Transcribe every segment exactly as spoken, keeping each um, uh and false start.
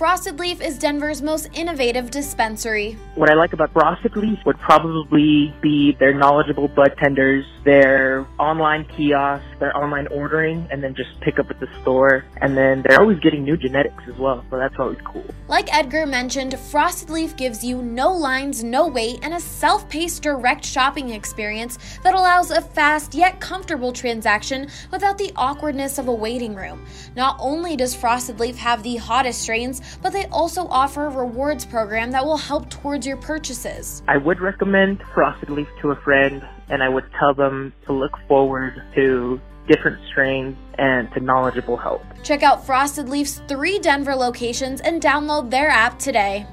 Frosted Leaf is Denver's most innovative dispensary. What I like about Frosted Leaf would probably be their knowledgeable bud tenders, their online kiosks, their online ordering, and then just pick up at the store. And then they're always getting new genetics as well, so that's always cool. Like Edgar mentioned, Frosted Leaf gives you no lines, no wait, and a self-paced direct shopping experience that allows a fast yet comfortable transaction without the awkwardness of a waiting room. Not only does Frosted Leaf have the hottest strains, but they also offer a rewards program that will help towards your purchases. I would recommend Frosted Leaf to a friend, and I would tell them to look forward to different strains and to knowledgeable help. Check out Frosted Leaf's three Denver locations and download their app today.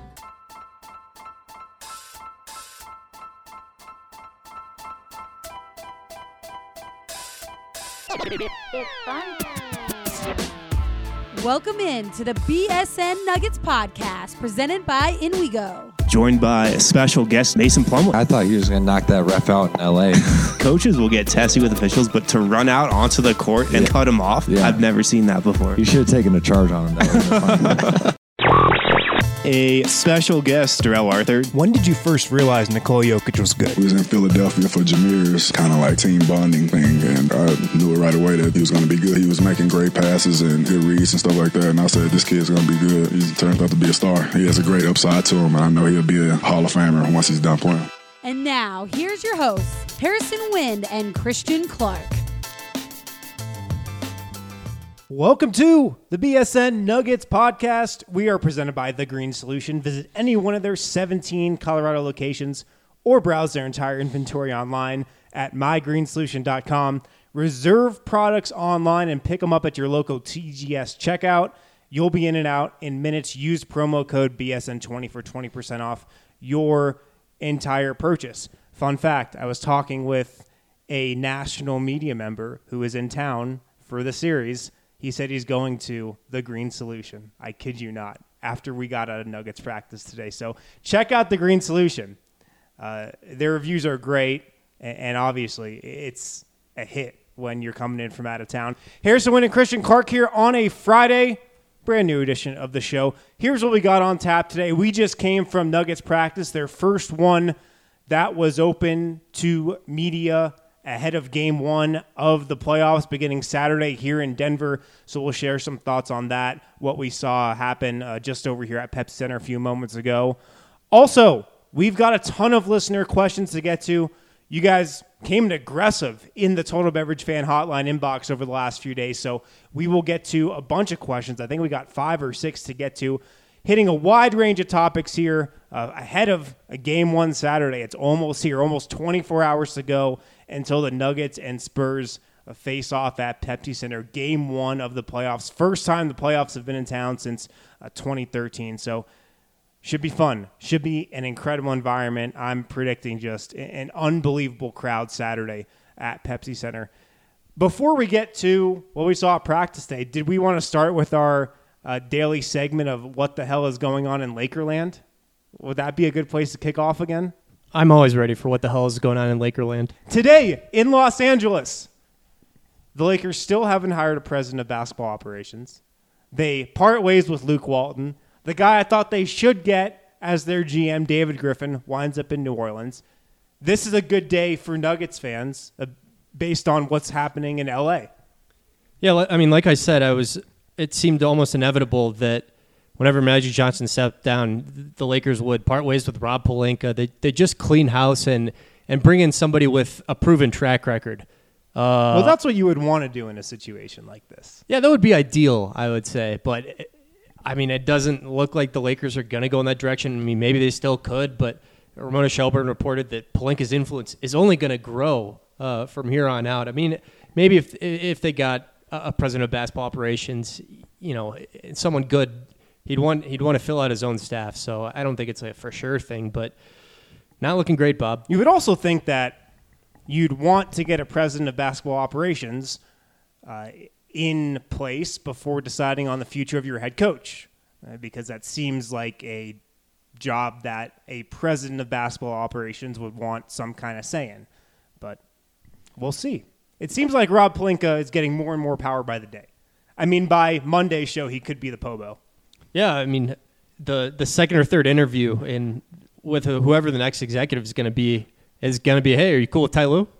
It's fun time. Welcome in to the B S N Nuggets podcast presented by In We Go. Joined by a special guest, Mason Plumlee. I thought he was going to knock that ref out in L A. Coaches will get testy with officials, but to run out onto the court and yeah. cut him off, yeah. I've never seen that before. You should have taken a charge on him. That A special guest, Darrell Arthur. When did you first realize Nikola Jokic was good? We was in Philadelphia for Jameer's kind of like team bonding thing, and I knew it right away that he was going to be good. He was making great passes and good reads and stuff like that, and I said, this kid's going to be good. He turned out to be a star. He has a great upside to him, and I know he'll be a Hall of Famer once he's done playing. And now, here's your hosts, Harrison Wind and Christian Clark. Welcome to the B S N Nuggets podcast. We are presented by The Green Solution. Visit any one of their seventeen Colorado locations or browse their entire inventory online at my green solution dot com. Reserve products online and pick them up at your local T G S checkout. You'll be in and out in minutes. Use promo code B S N twenty for twenty percent off your entire purchase. Fun fact, I was talking with a national media member who is in town for the series. He said he's going to The Green Solution. I kid you not, after we got out of Nuggets practice today. So check out The Green Solution. Uh, their reviews are great, and, and obviously it's a hit when you're coming in from out of town. Harrison Wind and Christian Clark here on a Friday, brand new edition of the show. Here's what we got on tap today. We just came from Nuggets practice, their first one that was open to media ahead of game one of the playoffs beginning Saturday here in Denver. So we'll share some thoughts on that, what we saw happen uh, just over here at Pepsi Center a few moments ago. Also, we've got a ton of listener questions to get to. You guys came in aggressive in the Total Beverage Fan Hotline inbox over the last few days, so we will get to a bunch of questions. I think we got five or six to get to, hitting a wide range of topics here uh, ahead of a game one Saturday. It's almost here, almost twenty-four hours to go until the Nuggets and Spurs face off at Pepsi Center. Game one of the playoffs. First time the playoffs have been in town since uh, twenty thirteen. So should be fun. Should be an incredible environment. I'm predicting just an unbelievable crowd Saturday at Pepsi Center. Before we get to what we saw at practice day, did we want to start with our uh, daily segment of what the hell is going on in Lakerland? Would that be a good place to kick off again? I'm always ready for what the hell is going on in Lakerland. Today in Los Angeles, the Lakers still haven't hired a president of basketball operations. They part ways with Luke Walton. The guy I thought they should get as their G M, David Griffin, winds up in New Orleans. This is a good day for Nuggets fans uh, based on what's happening in L A. Yeah, I mean, like I said, I was. It seemed almost inevitable that whenever Magic Johnson stepped down, the Lakers would part ways with Rob Pelinka. They they just clean house and and bring in somebody with a proven track record. Uh, well, that's what you would want to do in a situation like this. Yeah, that would be ideal, I would say. But, it, I mean, it doesn't look like the Lakers are going to go in that direction. I mean, maybe they still could, but Ramona Shelburne reported that Pelinka's influence is only going to grow uh, from here on out. I mean, maybe if if they got a president of basketball operations, you know, someone good, he'd want he'd want to fill out his own staff. So I don't think it's a for sure thing, but not looking great, Bob. You would also think that you'd want to get a president of basketball operations uh, in place before deciding on the future of your head coach, uh, because that seems like a job that a president of basketball operations would want some kind of say in. But we'll see. It seems like Rob Pelinka is getting more and more power by the day. I mean, by Monday's show, he could be the Pobo. Yeah, I mean, the the second or third interview in with whoever the next executive is going to be is going to be, hey, are you cool with Ty Lue?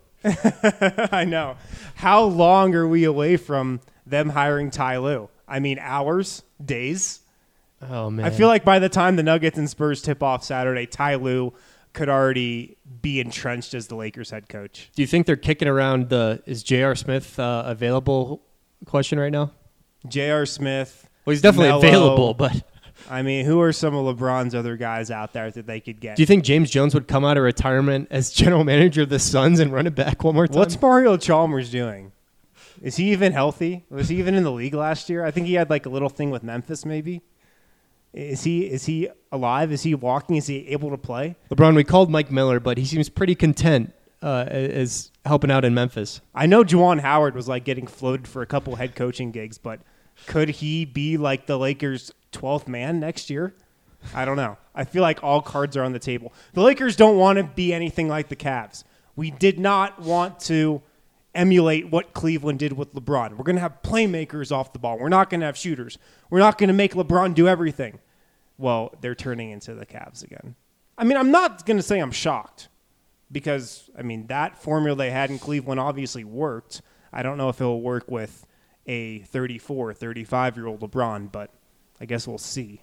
I know. How long are we away from them hiring Ty Lue? I mean, hours, days. Oh man, I feel like by the time the Nuggets and Spurs tip off Saturday, Ty Lue could already be entrenched as the Lakers head coach. Do you think they're kicking around the is J R. Smith uh, available question right now? J R. Smith. Well, he's definitely Melo. available, but I mean, who are some of LeBron's other guys out there that they could get? Do you think James Jones would come out of retirement as general manager of the Suns and run it back one more time? What's Mario Chalmers doing? Is he even healthy? Was he even in the league last year? I think he had like a little thing with Memphis, maybe. Is he is he alive? Is he walking? Is he able to play? LeBron, we called Mike Miller, but he seems pretty content uh, as helping out in Memphis. I know Juwan Howard was like getting floated for a couple head coaching gigs, but could he be like the Lakers' twelfth man next year? I don't know. I feel like all cards are on the table. The Lakers don't want to be anything like the Cavs. We did not want to emulate what Cleveland did with LeBron. We're going to have playmakers off the ball. We're not going to have shooters. We're not going to make LeBron do everything. Well, they're turning into the Cavs again. I mean, I'm not going to say I'm shocked because, I mean, that formula they had in Cleveland obviously worked. I don't know if it'll work with a thirty-four, thirty-five-year-old LeBron, but I guess we'll see.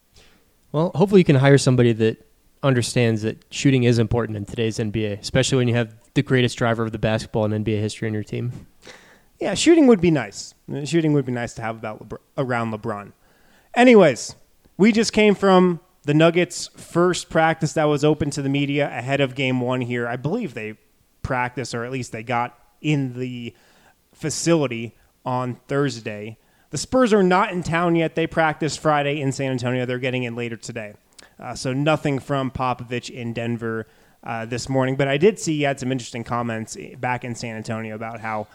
Well, hopefully you can hire somebody that understands that shooting is important in today's N B A, especially when you have the greatest driver of the basketball in N B A history on your team. Yeah, shooting would be nice. Shooting would be nice to have about Lebr- around LeBron. Anyways, we just came from the Nuggets' first practice that was open to the media ahead of game one here. I believe they practiced, or at least they got in the facility on Thursday. The Spurs are not in town yet. They practiced Friday in San Antonio. They're getting in later today. Uh, so nothing from Popovich in Denver uh, this morning. But I did see he had some interesting comments back in San Antonio about how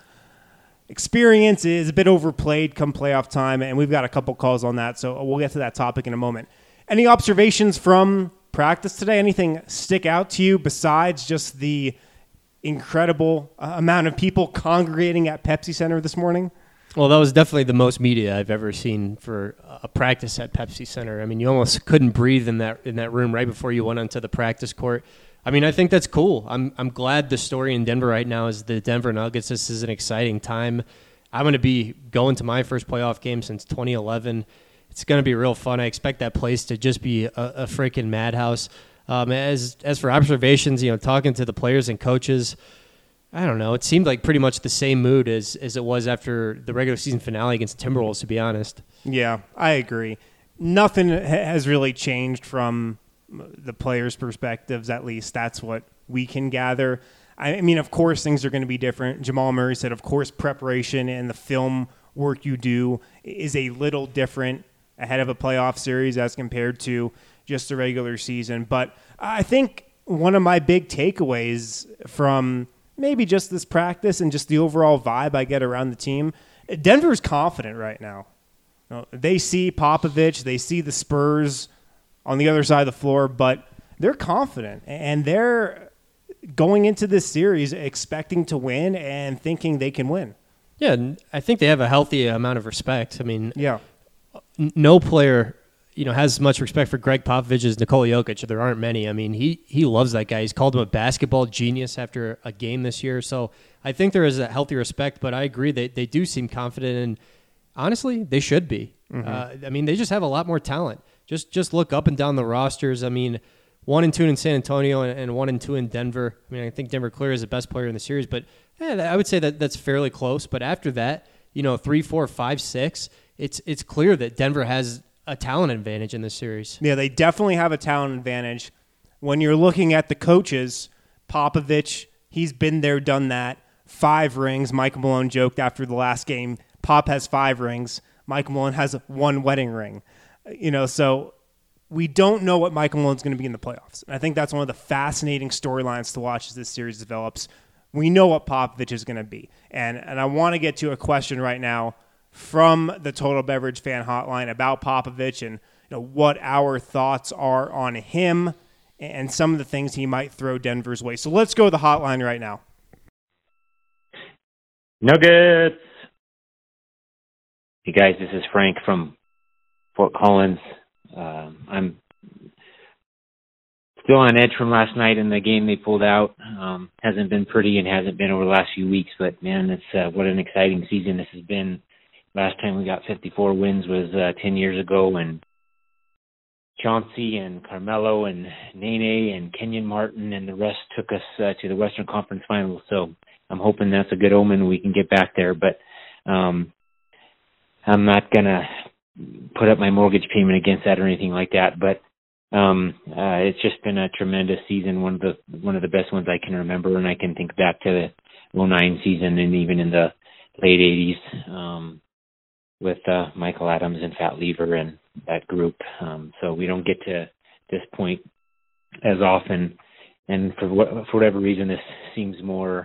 experience is a bit overplayed come playoff time, and we've got a couple calls on that, so we'll get to that topic in a moment. Any observations from practice today? Anything stick out to you besides just the incredible uh, amount of people congregating at Pepsi Center this morning? Well, that was definitely the most media I've ever seen for a practice at Pepsi Center. I mean, you almost couldn't breathe in that in that room right before you went onto the practice court. I mean, I think that's cool. I'm I'm glad the story in Denver right now is the Denver Nuggets. This is an exciting time. I'm going to be going to my first playoff game since twenty eleven. It's going to be real fun. I expect that place to just be a, a freaking madhouse. Um, as as for observations, you know, talking to the players and coaches, I don't know. It seemed like pretty much the same mood as, as it was after the regular season finale against the Timberwolves, to be honest. Yeah, I agree. Nothing ha- has really changed from the players' perspectives, at least. That's what we can gather. I mean, of course, things are going to be different. Jamal Murray said, of course, preparation and the film work you do is a little different ahead of a playoff series as compared to just the regular season. But I think one of my big takeaways from maybe just this practice and just the overall vibe I get around the team, Denver's confident right now. You know, they see Popovich, they see the Spurs on the other side of the floor, but they're confident, and they're going into this series expecting to win and thinking they can win. Yeah, and I think they have a healthy amount of respect. I mean, yeah, n- no player, you know, has as much respect for Greg Popovich as Nikola Jokic. There aren't many. I mean, he he loves that guy. He's called him a basketball genius after a game this year. So I think there is a healthy respect, but I agree they, they do seem confident, and honestly, they should be. Mm-hmm. Uh, I mean, they just have a lot more talent. Just just look up and down the rosters. I mean, one and two in San Antonio and, and one and two in Denver. I mean, I think Denver clearly is the best player in the series, but yeah, I would say that that's fairly close. But after that, you know, three, four, five, six, it's it's clear that Denver has a talent advantage in this series. Yeah, they definitely have a talent advantage. When you're looking at the coaches, Popovich, he's been there, done that. Five rings. Mike Malone joked after the last game, Pop has five rings. Mike Malone has one wedding ring. You know, so we don't know what Mike Malone's going to be in the playoffs. And I think that's one of the fascinating storylines to watch as this series develops. We know what Popovich is going to be. And and I want to get to a question right now from the Total Beverage Fan Hotline about Popovich and you know what our thoughts are on him and some of the things he might throw Denver's way. So let's go to the hotline right now. Nuggets. Hey guys, this is Frank from Fort Collins. Uh, I'm still on edge from last night in the game they pulled out. Um, hasn't been pretty and hasn't been over the last few weeks, but man, it's uh, what an exciting season this has been. Last time we got fifty-four wins was uh, ten years ago, and Chauncey and Carmelo and Nene and Kenyon Martin and the rest took us uh, to the Western Conference Finals. So I'm hoping that's a good omen. We can get back there, but um, I'm not gonna put up my mortgage payment against that or anything like that. But um, uh, it's just been a tremendous season, one of the one of the best ones I can remember, and I can think back to the oh nine season and even in the late eighties um, with uh, Michael Adams and Fat Lever and that group. Um, so we don't get to this point as often, and for what, for whatever reason, this seems more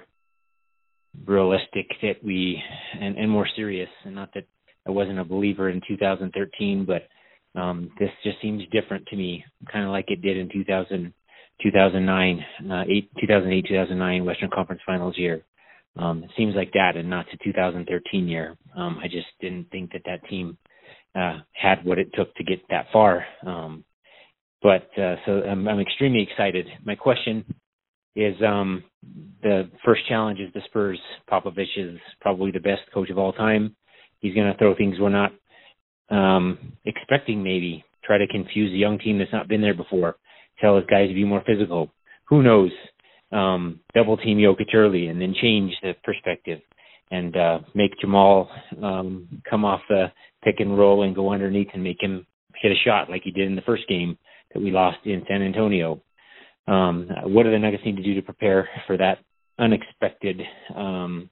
realistic that we and, and more serious. And not that I wasn't a believer in two thousand thirteen, but um, this just seems different to me, kind of like it did in two thousand, two thousand nine, uh, eight, two thousand eight, two thousand nine Western Conference Finals year. Um, it seems like that, and not the two thousand thirteen year. Um, I just didn't think that that team uh, had what it took to get that far. Um, but uh, so I'm, I'm extremely excited. My question is, um, the first challenge is the Spurs. Popovich is probably the best coach of all time. He's going to throw things we're not um, expecting, maybe. Try to confuse a young team that's not been there before. Tell his guys to be more physical. Who knows? Um, double team Jokic early and then change the perspective and uh, make Jamal um, come off the pick and roll and go underneath and make him hit a shot like he did in the first game that we lost in San Antonio. Um, what do the Nuggets need to do to prepare for that unexpected um,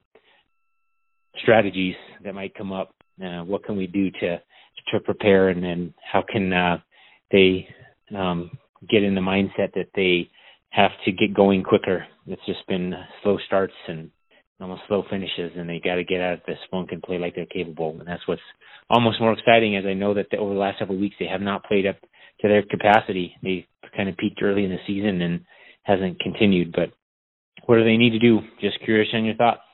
strategies that might come up? Uh, what can we do to to prepare, and then how can uh, they um, get in the mindset that they have to get going quicker? It's just been slow starts and almost slow finishes, and they got to get out of this funk and play like they're capable. And that's what's almost more exciting, as I know that the, over the last several weeks they have not played up to their capacity. They kind of peaked early in the season and hasn't continued. But what do they need to do? Just curious on your thoughts.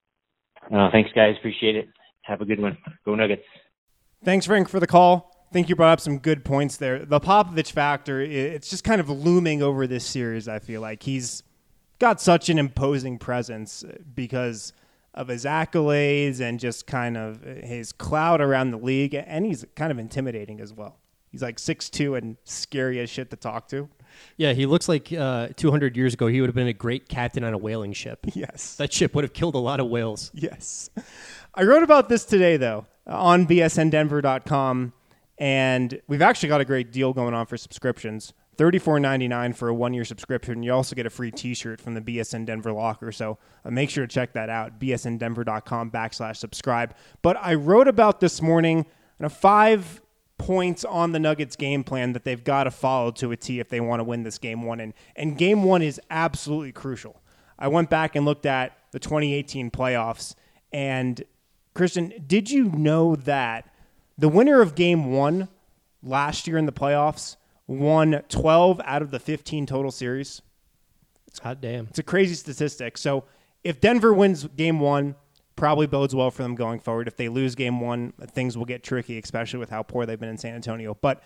Uh, thanks, guys. Appreciate it. Have a good one. Go Nuggets. Thanks, Frank, for the call. I think you brought up some good points there. The Popovich factor, it's just kind of looming over this series, I feel like. He's got such an imposing presence because of his accolades and just kind of his clout around the league, and he's kind of intimidating as well. He's like six two and scary as shit to talk to. Yeah, he looks like uh, two hundred years ago he would have been a great captain on a whaling ship. Yes. That ship would have killed a lot of whales. Yes. I wrote about this today, though, on B S N Denver dot com, and we've actually got a great deal going on for subscriptions. thirty-four ninety-nine for a one-year subscription. You also get a free T-shirt from the B S N Denver locker, so uh, make sure to check that out, B S N Denver dot com backslash subscribe. But I wrote about this morning, you know, five points on the Nuggets game plan that they've got to follow to a T if they want to win this game one. And, and game one is absolutely crucial. I went back and looked at the twenty eighteen playoffs, and Christian, did you know that the winner of game one last year in the playoffs won twelve out of the fifteen total series? Hot damn. It's a crazy statistic. So if Denver wins game one, probably bodes well for them going forward. If they lose game one, things will get tricky, especially with how poor they've been in San Antonio. But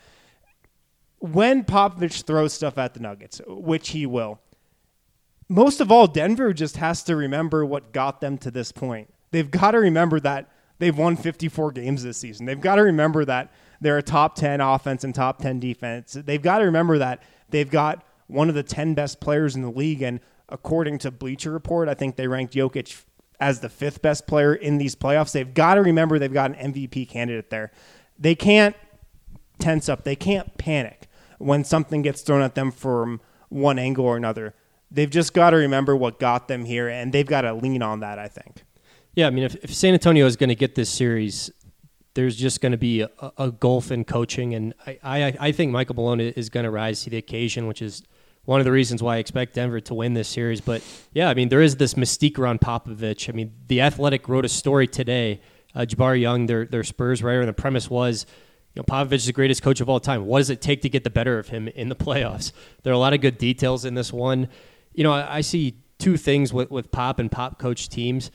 when Popovich throws stuff at the Nuggets, which he will, most of all, Denver just has to remember what got them to this point. They've got to remember that they've won fifty-four games this season. They've got to remember that they're a top ten offense and top ten defense. They've got to remember that they've got one of the ten best players in the league. And according to Bleacher Report, I think they ranked Jokic as the fifth best player in these playoffs. They've got to remember they've got an M V P candidate there. They can't tense up. They can't panic when something gets thrown at them from one angle or another. They've just got to remember what got them here, and they've got to lean on that, I think. Yeah, I mean, if, if San Antonio is going to get this series, there's just going to be a, a gulf in coaching, and I, I, I think Michael Malone is going to rise to the occasion, which is one of the reasons why I expect Denver to win this series. But, yeah, I mean, there is this mystique around Popovich. I mean, The Athletic wrote a story today, uh, Jabari Young, their, their Spurs writer, and the premise was, you know, Popovich is the greatest coach of all time. What does it take to get the better of him in the playoffs? There are a lot of good details in this one. You know, I, I see two things with, with Pop and Pop coach teams. He's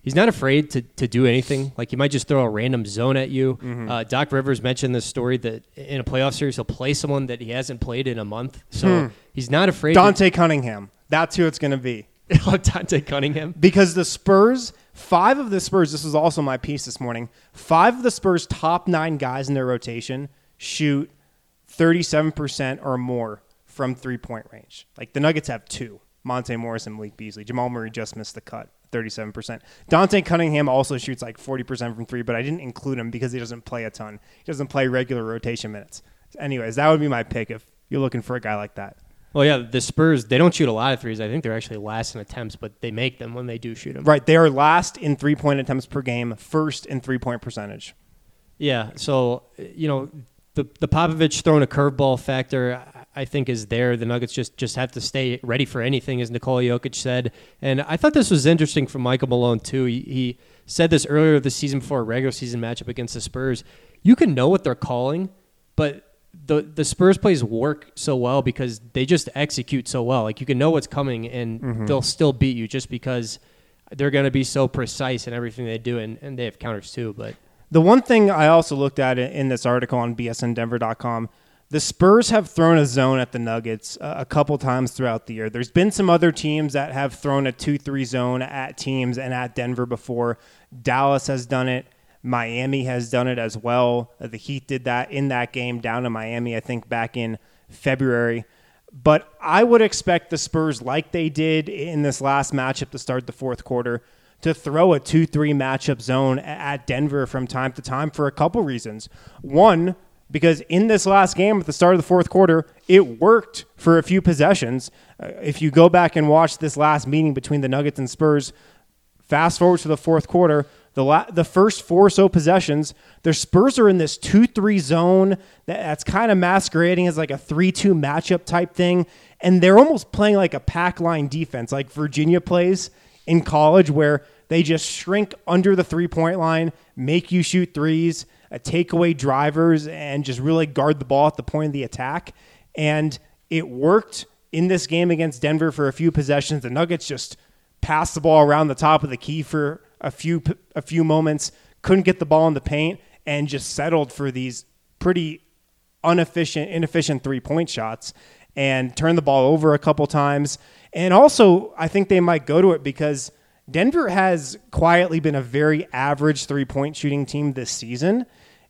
he's not afraid to to do anything. Like he might just throw a random zone at you. Mm-hmm. Uh, Doc Rivers mentioned this story that in a playoff series he'll play someone that he hasn't played in a month. So Hmm. he's not afraid. Dante Cunningham. That's who it's going to be. To, Dante Cunningham. Because the Spurs, five of the Spurs, this was also my piece this morning, five of the Spurs' top nine guys in their rotation shoot thirty-seven percent or more from three-point range. Like the Nuggets have two, Monte Morris and Malik Beasley. Jamal Murray just missed the cut, thirty-seven percent. Dante Cunningham also shoots like forty percent from three, but I didn't include him because he doesn't play a ton. He doesn't play regular rotation minutes. Anyways, that would be my pick if you're looking for a guy like that. Well, yeah, the Spurs, they don't shoot a lot of threes. I think they're actually last in attempts, but they make them when they do shoot them. Right. They are last in three-point attempts per game, first in three-point percentage. Yeah, so, you know, the the Popovich throwing a curveball factor, I think, is there. The Nuggets just, just have to stay ready for anything, as Nikola Jokic said. And I thought this was interesting from Michael Malone, too. He, he said this earlier this season before a regular season matchup against the Spurs. You can know what they're calling, but the the Spurs plays work so well because they just execute so well. Like, you can know what's coming, and Mm-hmm. they'll still beat you just because they're going to be so precise in everything they do, and, and they have counters, too. But The one thing I also looked at in this article on B S N Denver dot com, the Spurs have thrown a zone at the Nuggets uh, a couple times throughout the year. There's been some other teams that have thrown a two three zone at teams and at Denver before. Dallas has done it. Miami has done it as well. Uh, the Heat did that in that game down in Miami, I think, back in February. But I would expect the Spurs, like they did in this last matchup to start the fourth quarter, to throw a two three matchup zone at Denver from time to time for a couple reasons. One, because in this last game at the start of the fourth quarter, it worked for a few possessions. Uh, if you go back and watch this last meeting between the Nuggets and Spurs, fast forward to the fourth quarter, the la- the first four or so possessions, the Spurs are in this two three zone that, that's kind of masquerading as like a three two matchup type thing, and they're almost playing like a pack line defense like Virginia plays in college, where they just shrink under the three-point line, make you shoot threes, uh, take away drivers, and just really guard the ball at the point of the attack. And it worked in this game against Denver for a few possessions. The Nuggets just passed the ball around the top of the key for a few a few moments, couldn't get the ball in the paint, and just settled for these pretty inefficient, inefficient three-point shots and turned the ball over a couple times. And also, I think they might go to it because Denver has quietly been a very average three-point shooting team this season.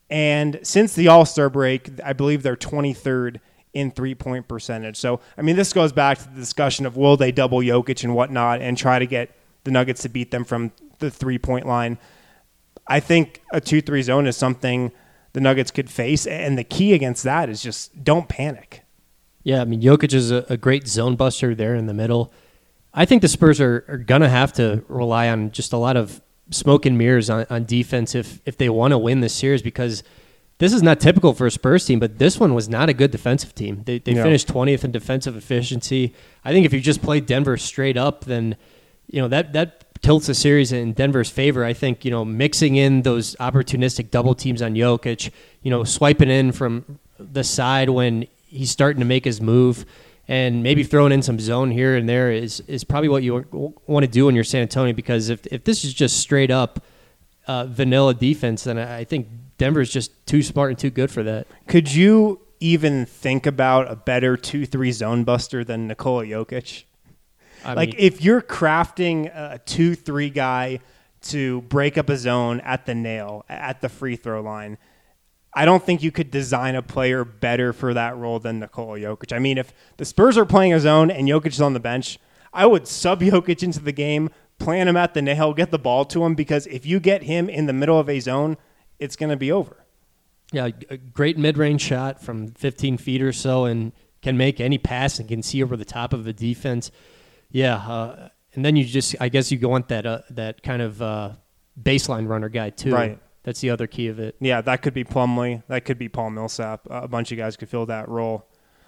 And since the All-Star break, I believe they're twenty-third in three-point percentage. So, I mean, this goes back to the discussion of will they double Jokic and whatnot and try to get the Nuggets to beat them from the three-point line. I think a two three zone is something the Nuggets could face, and the key against that is just don't panic. yeah, I mean, Jokic is a, a great zone buster there in the middle. I think the Spurs are, are going to have to rely on just a lot of smoke and mirrors on, on defense if, if they want to win this series, because this is not typical for a Spurs team, but this one was not a good defensive team. They, they No. finished twentieth in defensive efficiency. I think if you just play Denver straight up, then you know that that tilts the series in Denver's favor. I think, you know, mixing in those opportunistic double teams on Jokic, you know, swiping in from the side when he's starting to make his move, and maybe throwing in some zone here and there is is probably what you want to do when you're San Antonio, because if if this is just straight up uh, vanilla defense, then I think Denver's just too smart and too good for that. Could you even think about a better two three zone buster than Nikola Jokic? I like, mean, if you're crafting a two three guy to break up a zone at the nail, at the free throw line, I don't think you could design a player better for that role than Nikola Jokic. I mean, if the Spurs are playing a zone and Jokic is on the bench, I would sub Jokic into the game, plant him at the nail, get the ball to him, because if you get him in the middle of a zone, it's going to be over. yeah, a great mid-range shot from fifteen feet or so, and can make any pass and can see over the top of the defense. Yeah, uh, and then you just, I guess you want that uh, that kind of uh, baseline runner guy too. Right. That's the other key of it. Yeah, that could be Plumlee. That could be Paul Millsap. Uh, a bunch of guys could fill that role.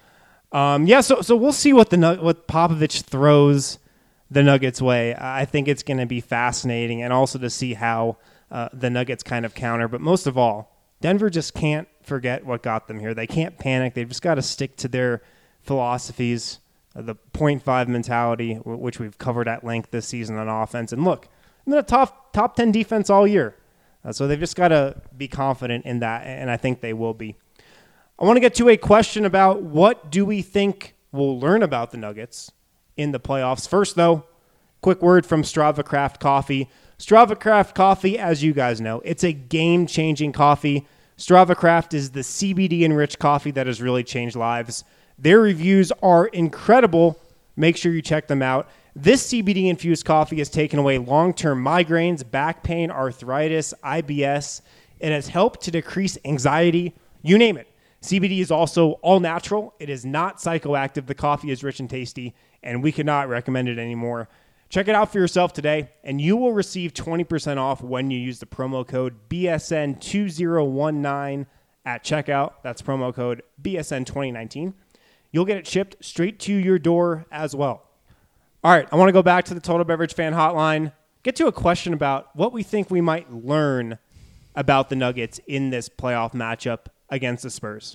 Um, yeah, so so we'll see what the what Popovich throws the Nuggets' way. I think it's going to be fascinating, and also to see how uh, the Nuggets kind of counter. But most of all, Denver just can't forget what got them here. They can't panic. They've just got to stick to their philosophies, uh, the point five mentality, w- which we've covered at length this season on offense. And look, and then a top top ten defense all year. Uh, so they've just got to be confident in that, and I think they will be. I want to get to a question about what do we think we'll learn about the Nuggets in the playoffs. First, though, quick word from Strava Craft Coffee. Strava Craft Coffee, as you guys know, it's a game-changing coffee. Strava Craft is the C B D-enriched coffee that has really changed lives. Their reviews are incredible. Make sure you check them out. This C B D-infused coffee has taken away long-term migraines, back pain, arthritis, I B S. It has helped to decrease anxiety. You name it. C B D is also all natural. It is not psychoactive. The coffee is rich and tasty, and we cannot recommend it anymore. Check it out for yourself today, and you will receive twenty percent off when you use the promo code B S N two zero one nine at checkout. That's promo code B S N twenty nineteen. You'll get it shipped straight to your door as well. All right, I want to go back to the Total Beverage Fan Hotline, get to a question about what we think we might learn about the Nuggets in this playoff matchup against the Spurs.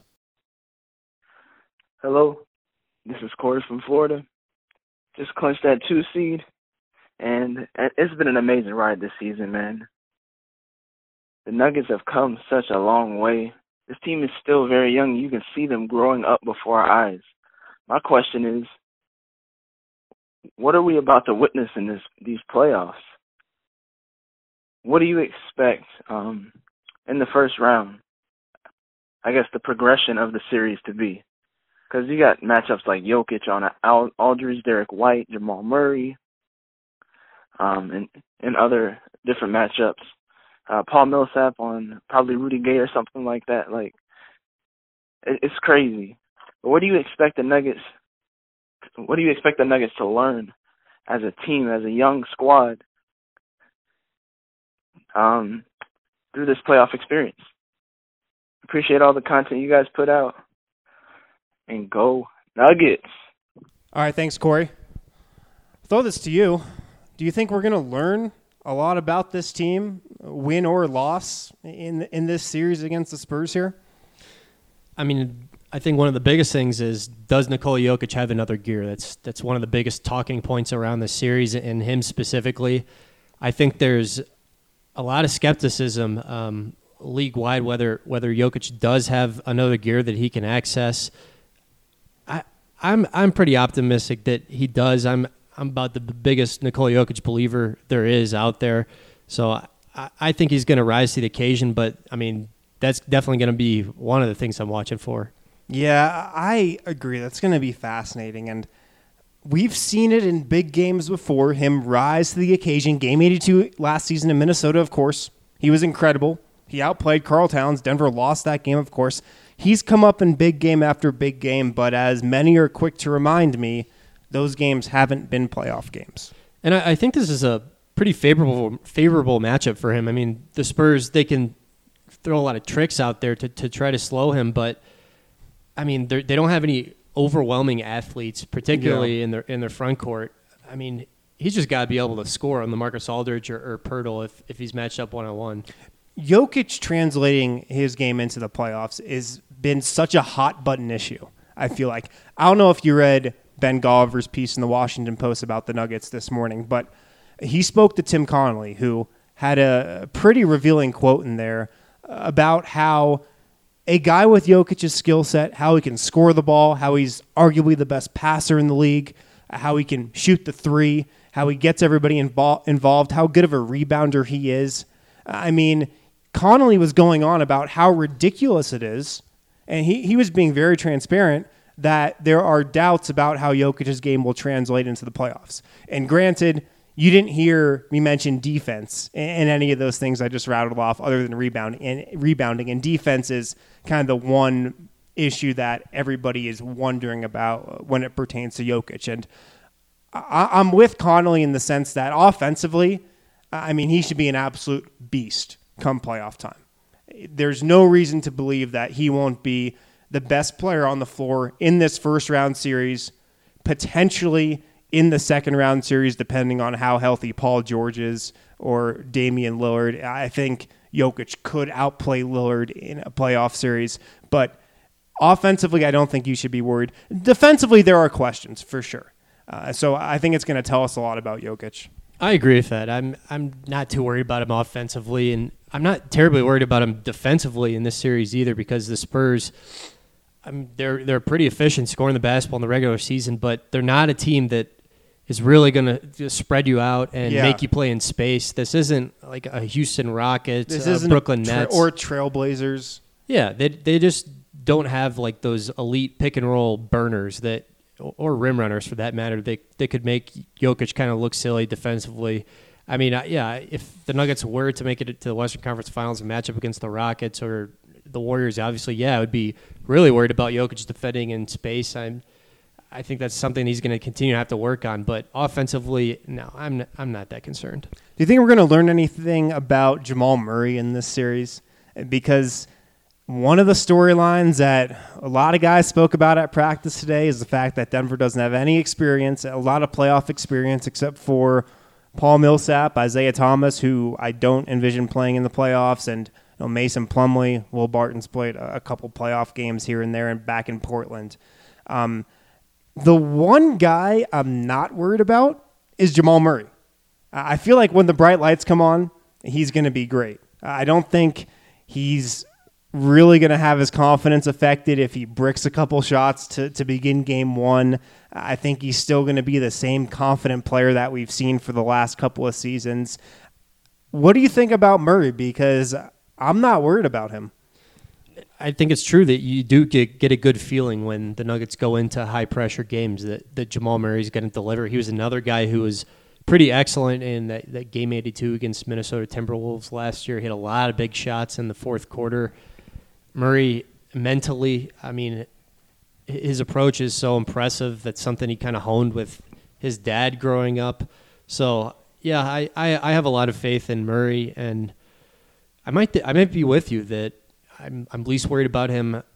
Hello, this is Corey from Florida. Just clinched that two seed. And it's been an amazing ride this season, man. The Nuggets have come such a long way. This team is still very young. You can see them growing up before our eyes. My question is, what are we about to witness in this these playoffs? What do you expect um, in the first round? I guess the progression of the series to be. Because you got matchups like Jokic on Al- Aldridge, Derek White, Jamal Murray, Um, and, and other different matchups. Uh, Paul Millsap on probably Rudy Gay or something like that. Like, it, it's crazy. But what do you expect the Nuggets? What do you expect the Nuggets to learn as a team, as a young squad, um, through this playoff experience? Appreciate all the content you guys put out, and go Nuggets! All right, thanks, Corey. Throw this to you. Do you think we're going to learn a lot about this team, win or loss, in in this series against the Spurs here? I mean, I think one of the biggest things is, does Nikola Jokic have another gear? That's that's one of the biggest talking points around the series, and him specifically. I think there's a lot of skepticism um, league-wide whether whether Jokic does have another gear that he can access. I, I'm I'm pretty optimistic that he does. I'm I'm about the biggest Nikola Jokic believer there is out there. So I, I think he's going to rise to the occasion, but, I mean, that's definitely going to be one of the things I'm watching for. Yeah, I agree. That's going to be fascinating. And we've seen it in big games before, him rise to the occasion. Game eighty-two last season in Minnesota, of course. He was incredible. He outplayed Karl Towns. Denver lost that game, of course. He's come up in big game after big game, but as many are quick to remind me, those games haven't been playoff games. And I, I think this is a pretty favorable favorable matchup for him. I mean, the Spurs, they can throw a lot of tricks out there to, to try to slow him, but, I mean, they don't have any overwhelming athletes, particularly yeah. in their in their front court. I mean, he's just got to be able to score on the Marcus Aldridge or, or Pirtle if, if he's matched up one-on-one. Jokic translating his game into the playoffs has been such a hot-button issue, I feel like. I don't know if you read Ben Golliver's piece in the Washington Post about the Nuggets this morning, but he spoke to Tim Connolly, who had a pretty revealing quote in there about how a guy with Jokic's skill set, how he can score the ball, how he's arguably the best passer in the league, how he can shoot the three, how he gets everybody invo- involved, how good of a rebounder he is. I mean, Connolly was going on about how ridiculous it is, and he, he was being very transparent that there are doubts about how Jokic's game will translate into the playoffs. And granted, you didn't hear me mention defense and any of those things I just rattled off other than rebounding. And rebounding and defense is kind of the one issue that everybody is wondering about when it pertains to Jokic. And I, I'm with Connolly in the sense that offensively, I mean, he should be an absolute beast come playoff time. There's no reason to believe that he won't be the best player on the floor in this first round series, potentially in the second round series, depending on how healthy Paul George is or Damian Lillard. I think Jokic could outplay Lillard in a playoff series, but offensively, I don't think you should be worried. Defensively, there are questions for sure. Uh, so I think it's going to tell us a lot about Jokic. I agree with that. I'm I'm not too worried about him offensively, and I'm not terribly worried about him defensively in this series either, because the Spurs, I mean, they're they're pretty efficient scoring the basketball in the regular season, but they're not a team that is really going to spread you out and Yeah. make you play in space. This isn't like a Houston Rockets, This uh, isn't Brooklyn a tra- Nets, or Trailblazers. Yeah, they they just don't have like those elite pick and roll burners that, or rim runners for that matter. They they could make Jokic kind of look silly defensively. I mean, uh, yeah, if the Nuggets were to make it to the Western Conference Finals and match up against the Rockets or the Warriors, obviously, yeah, I would be really worried about Jokic defending in space. I'm, I think that's something he's going to continue to have to work on. But offensively, no, I'm not, I'm not that concerned. Do you think we're going to learn anything about Jamal Murray in this series? Because one of the storylines that a lot of guys spoke about at practice today is the fact that Denver doesn't have any experience, a lot of playoff experience, except for Paul Millsap, Isaiah Thomas, who I don't envision playing in the playoffs, and you know, Mason Plumlee. Will Barton's played a couple playoff games here and there and back in Portland. Um, the one guy I'm not worried about is Jamal Murray. I feel like when the bright lights come on, he's going to be great. I don't think he's really going to have his confidence affected if he bricks a couple shots to, to begin game one. I think he's still going to be the same confident player that we've seen for the last couple of seasons. What do you think about Murray? Because I'm not worried about him. I think it's true that you do get, get a good feeling when the Nuggets go into high-pressure games that, that Jamal Murray's going to deliver. He was another guy who was pretty excellent in that, that game eighty-two against Minnesota Timberwolves last year. He had a lot of big shots in the fourth quarter. Murray, mentally, I mean, his approach is so impressive. That's something he kind of honed with his dad growing up. So, yeah, I, I, I have a lot of faith in Murray, and I might th- I might be with you that I'm I'm least worried about him uh,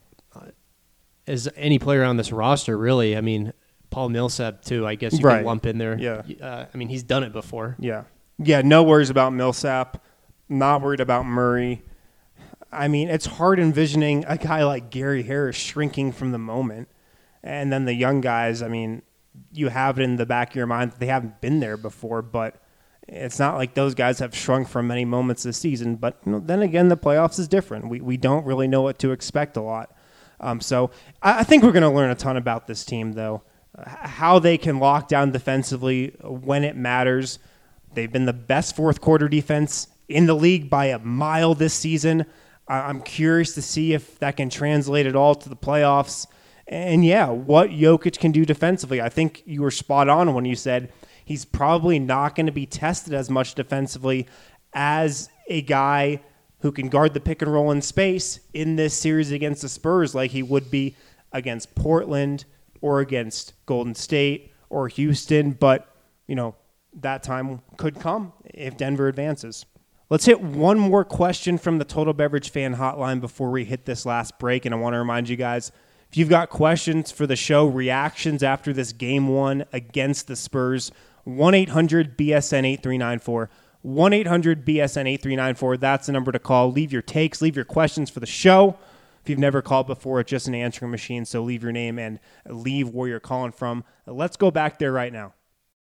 as any player on this roster, really. I mean, Paul Millsap, too, I guess you Right. can lump in there. Yeah. Uh, I mean, he's done it before. Yeah. Yeah, no worries about Millsap. Not worried about Murray. I mean, it's hard envisioning a guy like Gary Harris shrinking from the moment. And then the young guys, I mean, you have it in the back of your mind that they haven't been there before, but it's not like those guys have shrunk from many moments this season. But you know, then again, the playoffs is different. We we don't really know what to expect a lot. Um, so I, I think we're going to learn a ton about this team, though. Uh, how they can lock down defensively when it matters. They've been the best fourth quarter defense in the league by a mile this season. Uh, I'm curious to see if that can translate at all to the playoffs. And yeah, what Jokic can do defensively. I think you were spot on when you said he's probably not going to be tested as much defensively as a guy who can guard the pick and roll in space in this series against the Spurs like he would be against Portland or against Golden State or Houston. But, you know, that time could come if Denver advances. Let's hit one more question from the Total Beverage Fan Hotline before we hit this last break. And I want to remind you guys, if you've got questions for the show, reactions after this game one against the Spurs, one eight hundred B S N eight three nine four. one eight hundred B S N eight three nine four. That's the number to call. Leave your takes, leave your questions for the show. If you've never called before, it's just an answering machine, so leave your name and leave where you're calling from. Let's go back there right now.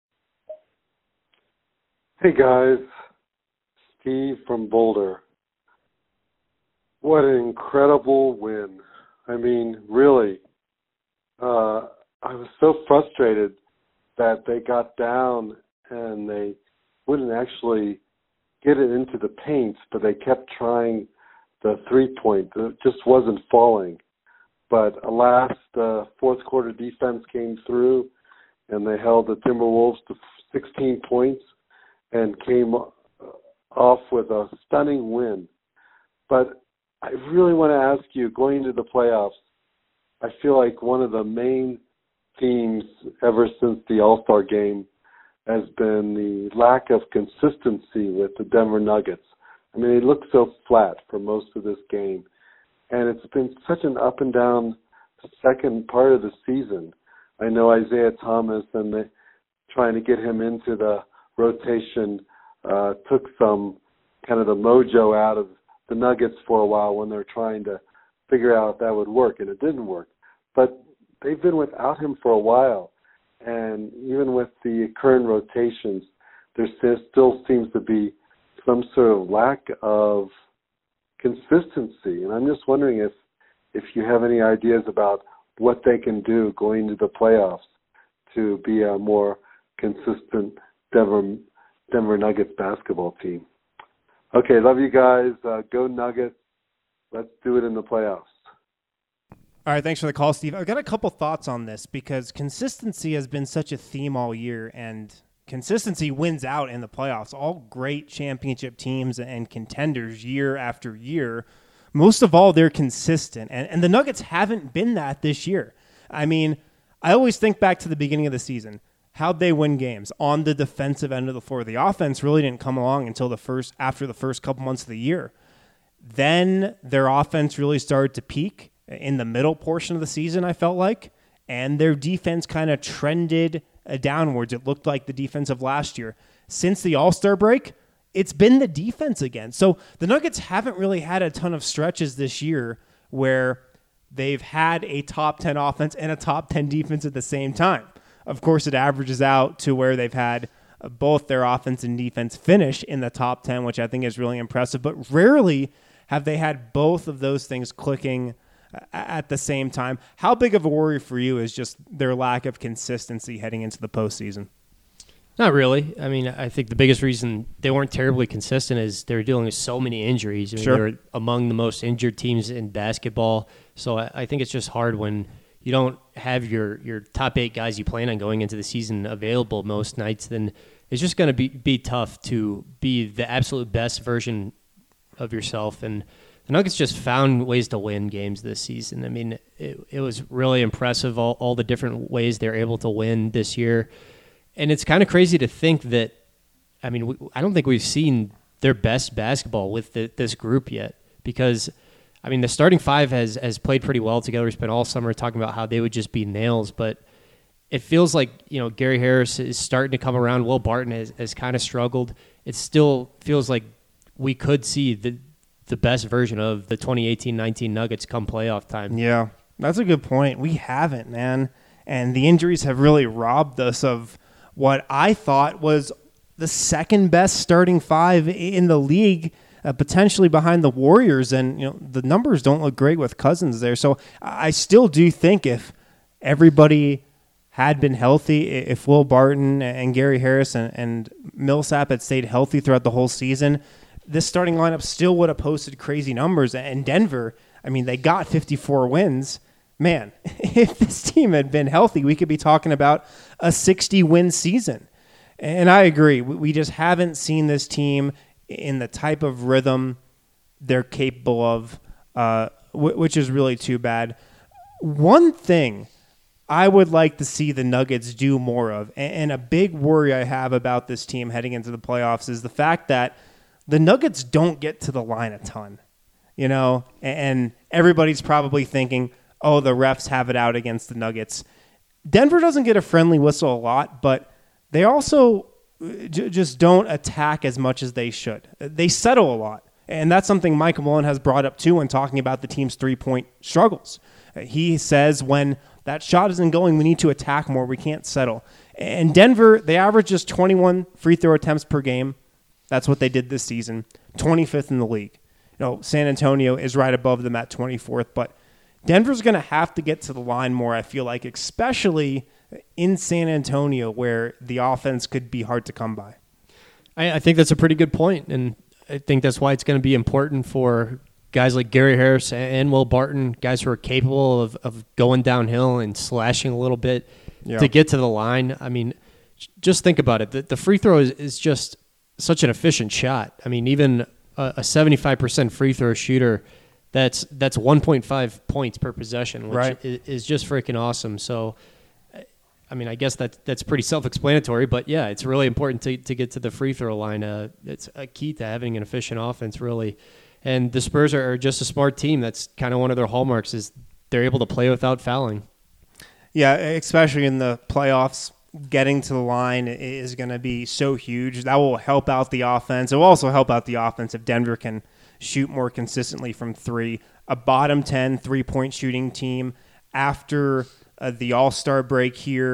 Hey, guys. Steve from Boulder. What an incredible win. I mean, really, uh, I was so frustrated that they got down and they wouldn't actually get it into the paint, but they kept trying the three-point. It just wasn't falling. But alas, the fourth quarter defense came through, and they held the Timberwolves to sixteen points and came off with a stunning win. But I really want to ask you, going into the playoffs, I feel like one of the main themes ever since the All-Star game has been the lack of consistency with the Denver Nuggets. I mean, they look so flat for most of this game. And it's been such an up and down second part of the season. I know Isaiah Thomas and the, trying to get him into the rotation uh, took some kind of the mojo out of the Nuggets for a while when they're trying to figure out if that would work, and it didn't work. But they've been without him for a while, and even with the current rotations, there still seems to be some sort of lack of consistency. And I'm just wondering if, if you have any ideas about what they can do going into the playoffs to be a more consistent Denver, Denver Nuggets basketball team. Okay, love you guys. Uh, go Nuggets. Let's do it in the playoffs. All right, thanks for the call, Steve. I've got a couple thoughts on this because consistency has been such a theme all year, and consistency wins out in the playoffs. All great championship teams and contenders year after year, most of all, they're consistent. And, and the Nuggets haven't been that this year. I mean, I always think back to the beginning of the season. How'd they win games? On the defensive end of the floor. The offense really didn't come along until the first after the first couple months of the year. Then their offense really started to peak in the middle portion of the season, I felt like, and their defense kind of trended uh, downwards. It looked like the defense of last year. Since the All-Star break, it's been the defense again. So the Nuggets haven't really had a ton of stretches this year where they've had a top ten offense and a top ten defense at the same time. Of course, it averages out to where they've had uh, both their offense and defense finish in the top ten, which I think is really impressive, but rarely have they had both of those things clicking at the same time. How big of a worry for you is just their lack of consistency heading into the postseason? Not really. I mean, I think the biggest reason they weren't terribly consistent is they were dealing with so many injuries. I mean, sure. They were among the most injured teams in basketball. So I, I think it's just hard when you don't have your, your top eight guys you plan on going into the season available most nights. Then it's just going to be, be tough to be the absolute best version of yourself. And the Nuggets just found ways to win games this season. I mean, it, it was really impressive, all, all the different ways they're able to win this year. And it's kind of crazy to think that, I mean, we, I don't think we've seen their best basketball with the, this group yet because, I mean, the starting five has, has played pretty well together. We spent all summer talking about how they would just be nails, but it feels like, you know, Gary Harris is starting to come around. Will Barton has, has kind of struggled. It still feels like we could see the the best version of the twenty eighteen nineteen Nuggets come playoff time. Yeah, that's a good point. We haven't, man. And the injuries have really robbed us of what I thought was the second best starting five in the league, uh, potentially behind the Warriors. And, you know, the numbers don't look great with Cousins there. So I still do think if everybody had been healthy, if Will Barton and Gary Harris and, and Millsap had stayed healthy throughout the whole season, this starting lineup still would have posted crazy numbers. And Denver, I mean, they got fifty-four wins. Man, if this team had been healthy, we could be talking about a sixty-win season. And I agree. We just haven't seen this team in the type of rhythm they're capable of, uh, which is really too bad. One thing I would like to see the Nuggets do more of, and a big worry I have about this team heading into the playoffs, is the fact that the Nuggets don't get to the line a ton, you know, and everybody's probably thinking, oh, the refs have it out against the Nuggets. Denver doesn't get a friendly whistle a lot, but they also j- just don't attack as much as they should. They settle a lot, and that's something Michael Malone has brought up too when talking about the team's three-point struggles. He says when that shot isn't going, we need to attack more. We can't settle. And Denver, they average just twenty-one free throw attempts per game. That's what they did this season, twenty-fifth in the league. You know, San Antonio is right above them at twenty-fourth, but Denver's going to have to get to the line more, I feel like, especially in San Antonio where the offense could be hard to come by. I, I think that's a pretty good point, and I think that's why it's going to be important for guys like Gary Harris and Will Barton, guys who are capable of, of going downhill and slashing a little bit yeah. to get to the line. I mean, just think about it. The, the free throw is, is just such an efficient shot. I mean, even a, a seventy-five percent free throw shooter, that's that's one point five points per possession, which right. is, is just freaking awesome. So, I mean, I guess that that's pretty self-explanatory, but yeah, it's really important to, to get to the free throw line. Uh, it's a key to having an efficient offense, really. And the Spurs are, are just a smart team. That's kind of one of their hallmarks is they're able to play without fouling. Yeah, especially in the playoffs. Getting to the line is going to be so huge. That will help out the offense. It will also help out the offense if Denver can shoot more consistently from three. A bottom ten three-point shooting team after uh, the All-Star break here.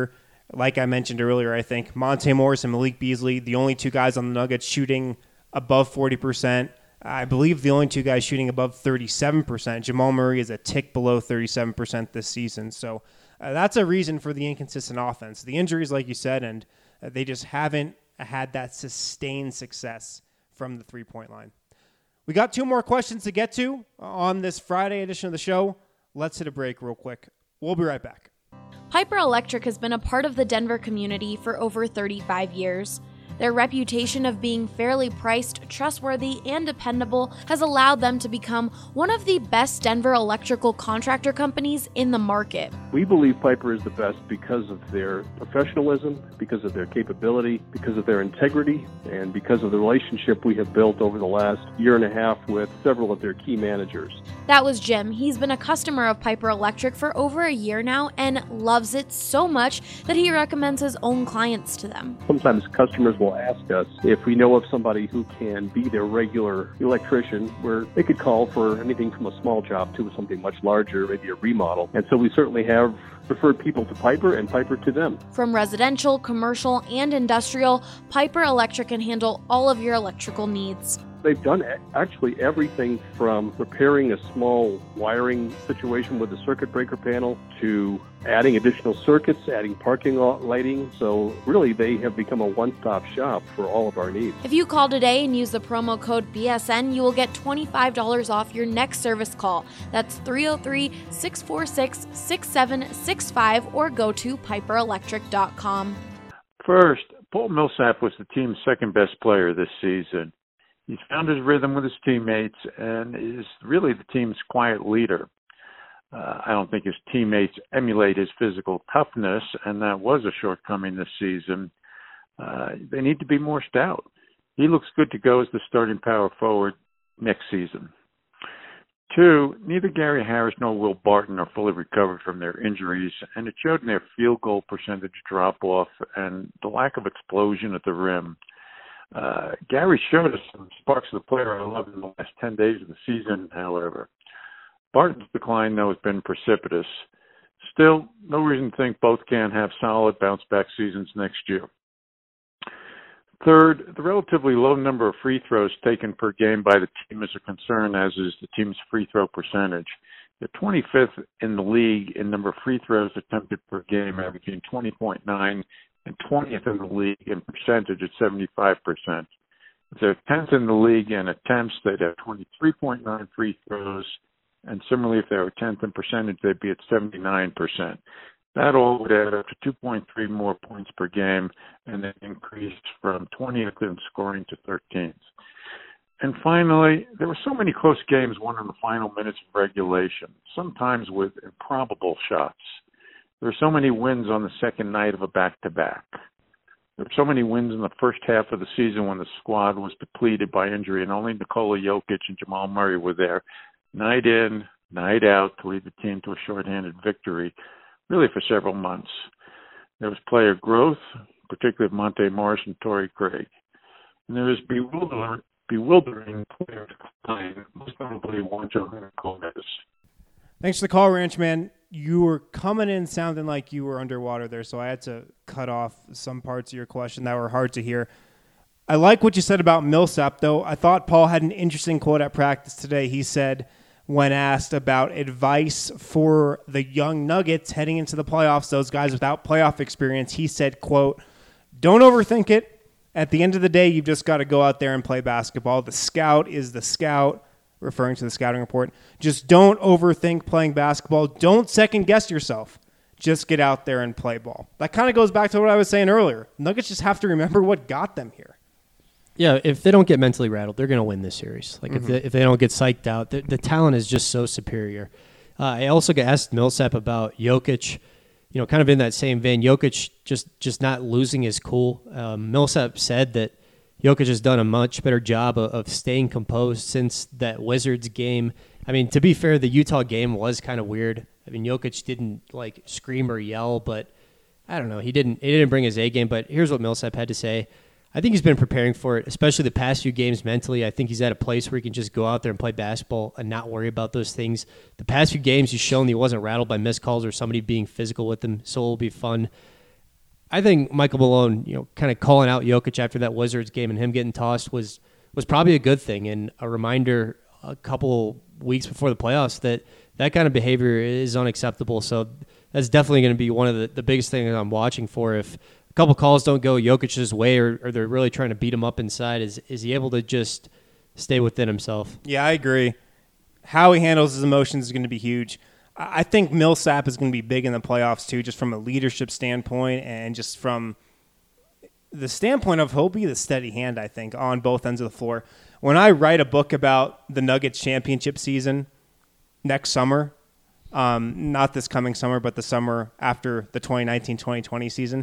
Like I mentioned earlier, I think Monte Morris and Malik Beasley, the only two guys on the Nuggets shooting above forty percent. I believe the only two guys shooting above thirty-seven percent. Jamal Murray is a tick below thirty-seven percent this season. So uh, that's a reason for the inconsistent offense. The injuries, like you said, and uh, they just haven't had that sustained success from the three-point line. We got two more questions to get to on this Friday edition of the show. Let's hit a break real quick. We'll be right back. Piper Electric has been a part of the Denver community for over thirty-five years. Their reputation of being fairly priced, trustworthy, and dependable has allowed them to become one of the best Denver electrical contractor companies in the market. We believe Piper is the best because of their professionalism, because of their capability, because of their integrity, and because of the relationship we have built over the last year and a half with several of their key managers. That was Jim. He's been a customer of Piper Electric for over a year now and loves it so much that he recommends his own clients to them. Sometimes customers will ask us if we know of somebody who can be their regular electrician, where they could call for anything from a small job to something much larger, maybe a remodel. And so we certainly have referred people to Piper and Piper to them. From residential, commercial, and industrial, Piper Electric can handle all of your electrical needs. They've done actually everything from repairing a small wiring situation with the circuit breaker panel to adding additional circuits, adding parking lot lighting. So really, they have become a one-stop shop for all of our needs. If you call today and use the promo code B S N, you will get twenty-five dollars off your next service call. That's three oh three, six four six, six seven six five or go to piper electric dot com. First, Paul Millsap was the team's second-best player this season. He's found his rhythm with his teammates and is really the team's quiet leader. Uh, I don't think his teammates emulate his physical toughness, and that was a shortcoming this season. Uh, they need to be more stout. He looks good to go as the starting power forward next season. Two, neither Gary Harris nor Will Barton are fully recovered from their injuries, and it showed in their field goal percentage drop-off and the lack of explosion at the rim. Uh, Gary showed us some sparks of the player I love in the last ten days of the season, however. Barton's decline, though, has been precipitous. Still, no reason to think both can have solid bounce-back seasons next year. Third, the relatively low number of free throws taken per game by the team is a concern, as is the team's free throw percentage. They're twenty-fifth in the league in number of free throws attempted per game, averaging twenty point nine, and twentieth in the league in percentage at seventy-five percent. If they're tenth in the league in attempts, they'd have twenty-three point nine free throws, and similarly, if they were tenth in percentage, they'd be at seventy-nine percent. That all would add up to two point three more points per game, and then increased from twentieth in scoring to thirteenth. And finally, there were so many close games won in the final minutes of regulation, sometimes with improbable shots. There were so many wins on the second night of a back-to-back. There were so many wins in the first half of the season when the squad was depleted by injury and only Nikola Jokic and Jamal Murray were there, night in, night out, to lead the team to a shorthanded victory, really for several months. There was player growth, particularly of Monte Morris and Torrey Craig. And there was bewildering, bewildering player decline, most notably Juancho Gomez. Thanks for the call, Ranchman. You were coming in sounding like you were underwater there, so I had to cut off some parts of your question that were hard to hear. I like what you said about Millsap, though. I thought Paul had an interesting quote at practice today. He said, when asked about advice for the young Nuggets heading into the playoffs, those guys without playoff experience, he said, quote, don't overthink it. At the end of the day, you've just got to go out there and play basketball. The scout is the scout, referring to the scouting report. Just don't overthink playing basketball. Don't second guess yourself. Just get out there and play ball. That kind of goes back to what I was saying earlier. Nuggets just have to remember what got them here. Yeah, if they don't get mentally rattled, they're going to win this series. Like, mm-hmm. if, they, if they don't get psyched out, the, the talent is just so superior. Uh, I also got asked Millsap about Jokic, you know, kind of in that same vein. Jokic just, just not losing his cool. Um, Millsap said that Jokic has done a much better job of, of staying composed since that Wizards game. I mean, to be fair, the Utah game was kind of weird. I mean, Jokic didn't, like, scream or yell, but I don't know. He didn't, he didn't bring his A game, but here's what Millsap had to say. I think he's been preparing for it, especially the past few games mentally. I think he's at a place where he can just go out there and play basketball and not worry about those things. The past few games, he's shown he wasn't rattled by missed calls or somebody being physical with him, so it'll be fun. I think Michael Malone, you know, kind of calling out Jokic after that Wizards game and him getting tossed was was probably a good thing, and a reminder a couple weeks before the playoffs that that kind of behavior is unacceptable. So that's definitely going to be one of the, the biggest things I'm watching for. If a couple calls don't go Jokic's way, or, or they're really trying to beat him up inside, is is he able to just stay within himself? Yeah, I agree. How he handles his emotions is going to be huge. I think Millsap is going to be big in the playoffs too, just from a leadership standpoint and just from the standpoint of he'll be the steady hand, I think, on both ends of the floor. When I write a book about the Nuggets championship season next summer, um, not this coming summer, but the summer after the twenty nineteen twenty twenty season,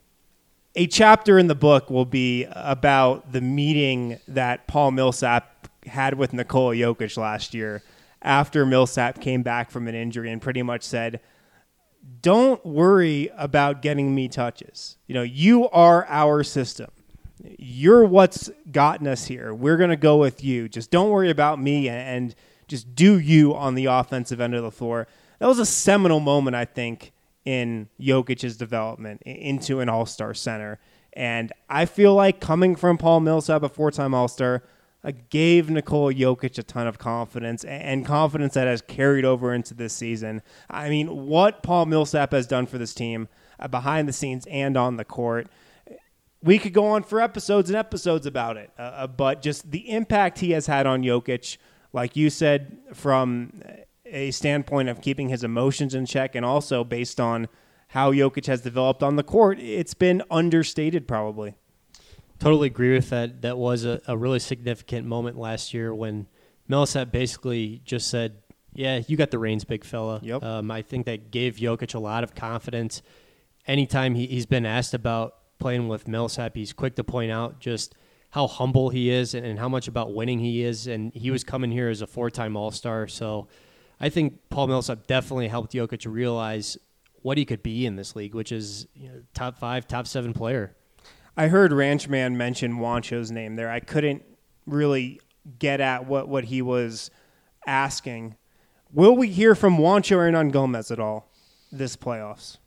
a chapter in the book will be about the meeting that Paul Millsap had with Nikola Jokic last year after Millsap came back from an injury and pretty much said, don't worry about getting me touches. You know, you are our system. You're what's gotten us here. We're going to go with you. Just don't worry about me and just do you on the offensive end of the floor. That was a seminal moment, I think, in Jokic's development into an all-star center. And I feel like coming from Paul Millsap, a four-time all-star, uh, gave Nikola Jokic a ton of confidence and confidence that has carried over into this season. I mean, what Paul Millsap has done for this team uh, behind the scenes and on the court, we could go on for episodes and episodes about it. Uh, but just the impact he has had on Jokic, like you said, from a standpoint of keeping his emotions in check and also based on how Jokic has developed on the court, it's been understated probably. Totally agree with that. That was a, a really significant moment last year when Millsap basically just said, yeah, you got the reins, big fella. Yep. Um, I think that gave Jokic a lot of confidence. Anytime he, he's been asked about playing with Millsap, he's quick to point out just how humble he is and, and how much about winning he is. And he was coming here as a four-time All-Star. So I think Paul Millsap definitely helped Jokic realize what he could be in this league, which is, you know, top five, top seven player. I heard Ranchman mention Juancho's name there. I couldn't really get at what, what he was asking. Will we hear from Juancho Hernangomez at all this playoffs?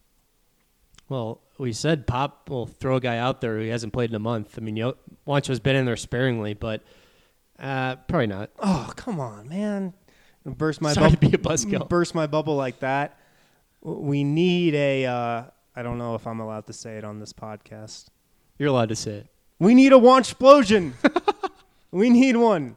Well, we said Pop will throw a guy out there who hasn't played in a month. I mean, Yo- Juancho's been in there sparingly, but uh, probably not. Oh, come on, man. Burst my Sorry bubble. to be a buzzkill. Burst my bubble like that. We need a, uh, I don't know if I'm allowed to say it on this podcast. You're allowed to say it. We need a Wanchplosion. We need one.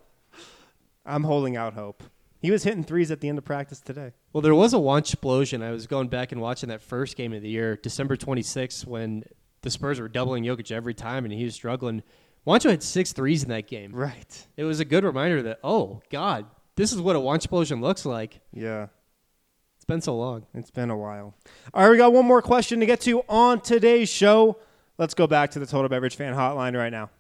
I'm holding out hope. He was hitting threes at the end of practice today. Well, there was a Wanchplosion. I was going back and watching that first game of the year, December twenty-sixth, when the Spurs were doubling Jokic every time and he was struggling. Juancho had six threes in that game. Right. It was a good reminder that, oh, God, this is what a Wanchplosion looks like. Yeah. It's been so long. It's been a while. All right, we got one more question to get to on today's show. Let's go back to the Total Beverage Fan Hotline right now.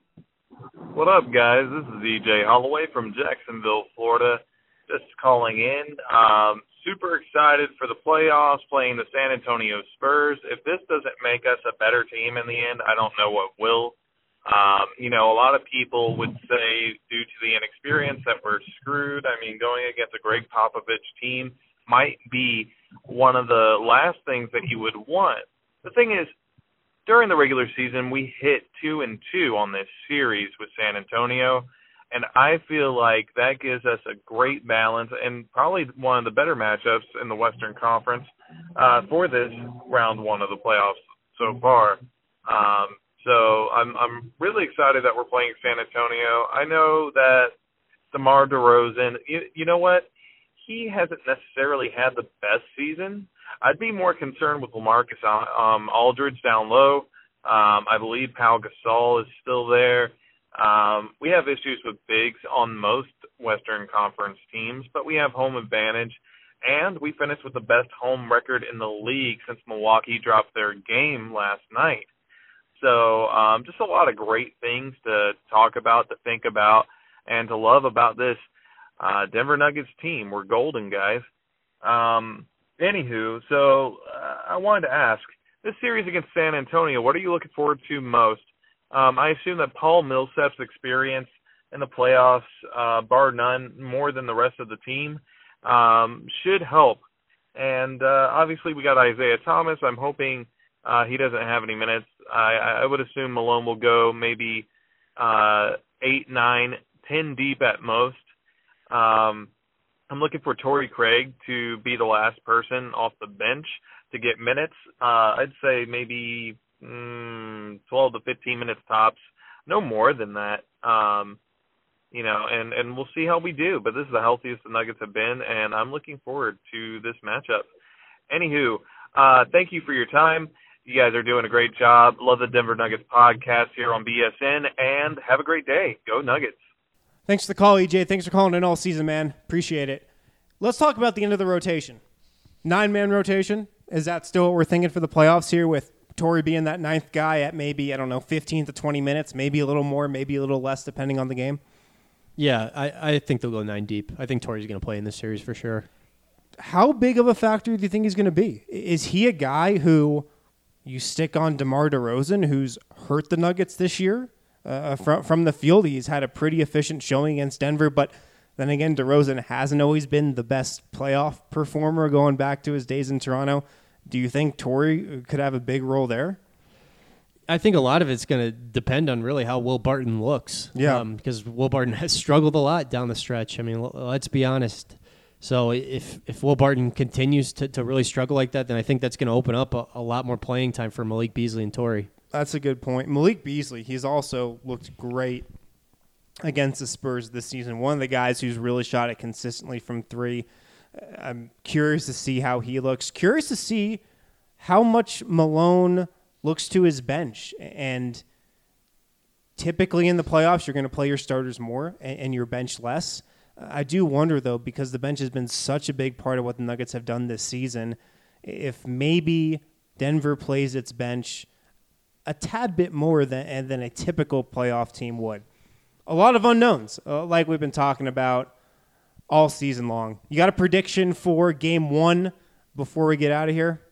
What up, guys? This is E J Holloway from Jacksonville, Florida. Just calling in. Um, super excited for the playoffs, playing the San Antonio Spurs. If this doesn't make us a better team in the end, I don't know what will. Um, you know, a lot of people would say due to the inexperience that we're screwed. I mean, going against a Greg Popovich team might be one of the last things that you would want. The thing is, during the regular season, we hit two and two on this series with San Antonio, and I feel like that gives us a great balance and probably one of the better matchups in the Western Conference uh, for this round one of the playoffs so far. Um, so I'm I'm really excited that we're playing San Antonio. I know that DeMar DeRozan, you, you know what? He hasn't necessarily had the best season. I'd be more concerned with LaMarcus um, Aldridge down low. Um, I believe Pau Gasol is still there. Um, we have issues with bigs on most Western Conference teams, but we have home advantage, and we finished with the best home record in the league since Milwaukee dropped their game last night. So um, just a lot of great things to talk about, to think about, and to love about this uh, Denver Nuggets team. We're golden, guys. Um, anywho, so uh, I wanted to ask, this series against San Antonio, what are you looking forward to most? Um, I assume that Paul Millsap's experience in the playoffs, uh, bar none, more than the rest of the team, um, should help. And uh, obviously we got Isaiah Thomas. I'm hoping Uh, he doesn't have any minutes. I, I would assume Malone will go maybe uh, eight, nine, ten deep at most. Um, I'm looking for Torrey Craig to be the last person off the bench to get minutes. Uh, I'd say maybe mm, twelve to fifteen minutes tops, no more than that. Um, you know, and, and we'll see how we do. But this is the healthiest the Nuggets have been, and I'm looking forward to this matchup. Anywho, uh, thank you for your time. You guys are doing a great job. Love the Denver Nuggets podcast here on B S N, and have a great day. Go Nuggets. Thanks for the call, E J. Thanks for calling in all season, man. Appreciate it. Let's talk about the end of the rotation. Nine-man rotation. Is that still what we're thinking for the playoffs here, with Torrey being that ninth guy at maybe, I don't know, fifteen to twenty minutes, maybe a little more, maybe a little less, depending on the game? Yeah, I, I think they'll go nine deep. I think Torrey's going to play in this series for sure. How big of a factor do you think he's going to be? Is he a guy who you stick on DeMar DeRozan, who's hurt the Nuggets this year? Uh, from, from the field, he's had a pretty efficient showing against Denver, but then again, DeRozan hasn't always been the best playoff performer going back to his days in Toronto. Do you think Torrey could have a big role there? I think a lot of it's going to depend on really how Will Barton looks. Yeah. Um, because Will Barton has struggled a lot down the stretch. I mean, l- let's be honest. So if if Will Barton continues to, to really struggle like that, then I think that's going to open up a, a lot more playing time for Malik Beasley and Torrey. That's a good point. Malik Beasley, he's also looked great against the Spurs this season. One of the guys who's really shot it consistently from three. I'm curious to see how he looks. Curious to see how much Malone looks to his bench. And typically in the playoffs, you're going to play your starters more and, and your bench less. I do wonder, though, because the bench has been such a big part of what the Nuggets have done this season, if maybe Denver plays its bench a tad bit more than, than a typical playoff team would. A lot of unknowns, uh, like we've been talking about all season long. You got a prediction for game one before we get out of here?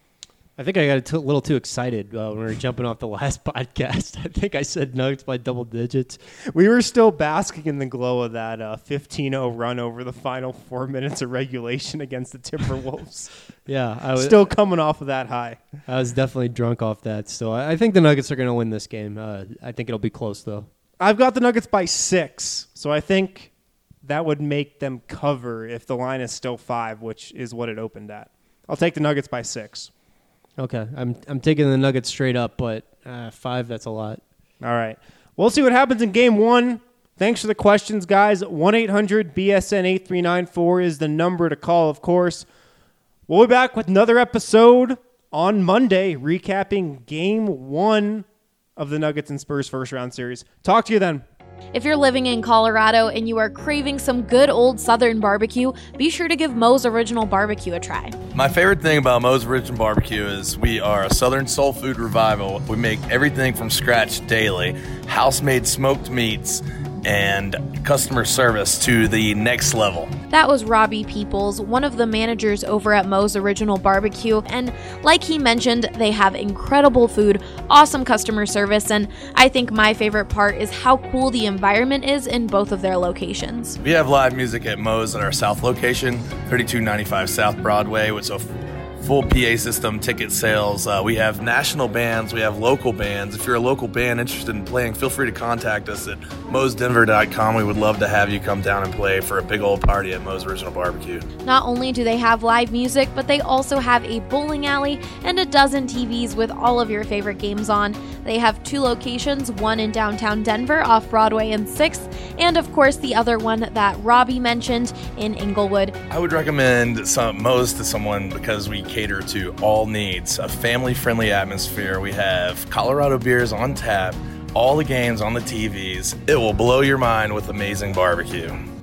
I think I got a t- little too excited uh, when we were jumping off the last podcast. I think I said Nuggets by double digits. We were still basking in the glow of that uh, fifteen oh run over the final four minutes of regulation against the Timberwolves. Yeah. I was still coming off of that high. I was definitely drunk off that. So I, I think the Nuggets are going to win this game. Uh, I think it'll be close, though. I've got the Nuggets by six, so I think that would make them cover if the line is still five, which is what it opened at. I'll take the Nuggets by six. Okay, I'm I'm taking the Nuggets straight up, but uh, five, that's a lot. All right. We'll see what happens in game one. Thanks for the questions, guys. one eight hundred B S N eight three nine four is the number to call, of course. We'll be back with another episode on Monday, recapping game one of the Nuggets and Spurs first round series. Talk to you then. If you're living in Colorado and you are craving some good old Southern barbecue, be sure to give Moe's Original Barbecue a try. My favorite thing about Moe's Original Barbecue is we are a Southern soul food revival. We make everything from scratch daily, house-made smoked meats, and customer service to the next level. That was Robbie Peoples, one of the managers over at Moe's Original Barbecue, and like he mentioned, they have incredible food, awesome customer service, and I think my favorite part is how cool the environment is in both of their locations. We have live music at Moe's at our South location, thirty-two ninety-five South Broadway, which is a full P A system, ticket sales. Uh, we have national bands. We have local bands. If you're a local band interested in playing, feel free to contact us at moes denver dot com. We would love to have you come down and play for a big old party at Moe's Original Barbecue. Not only do they have live music, but they also have a bowling alley and a dozen T Vs with all of your favorite games on. They have two locations, one in downtown Denver off Broadway and sixth, and of course the other one that Robbie mentioned in Inglewood. I would recommend some, Moe's to someone because we cater to all needs, a family-friendly atmosphere. We have Colorado beers on tap, all the games on the T Vs. It will blow your mind with amazing barbecue.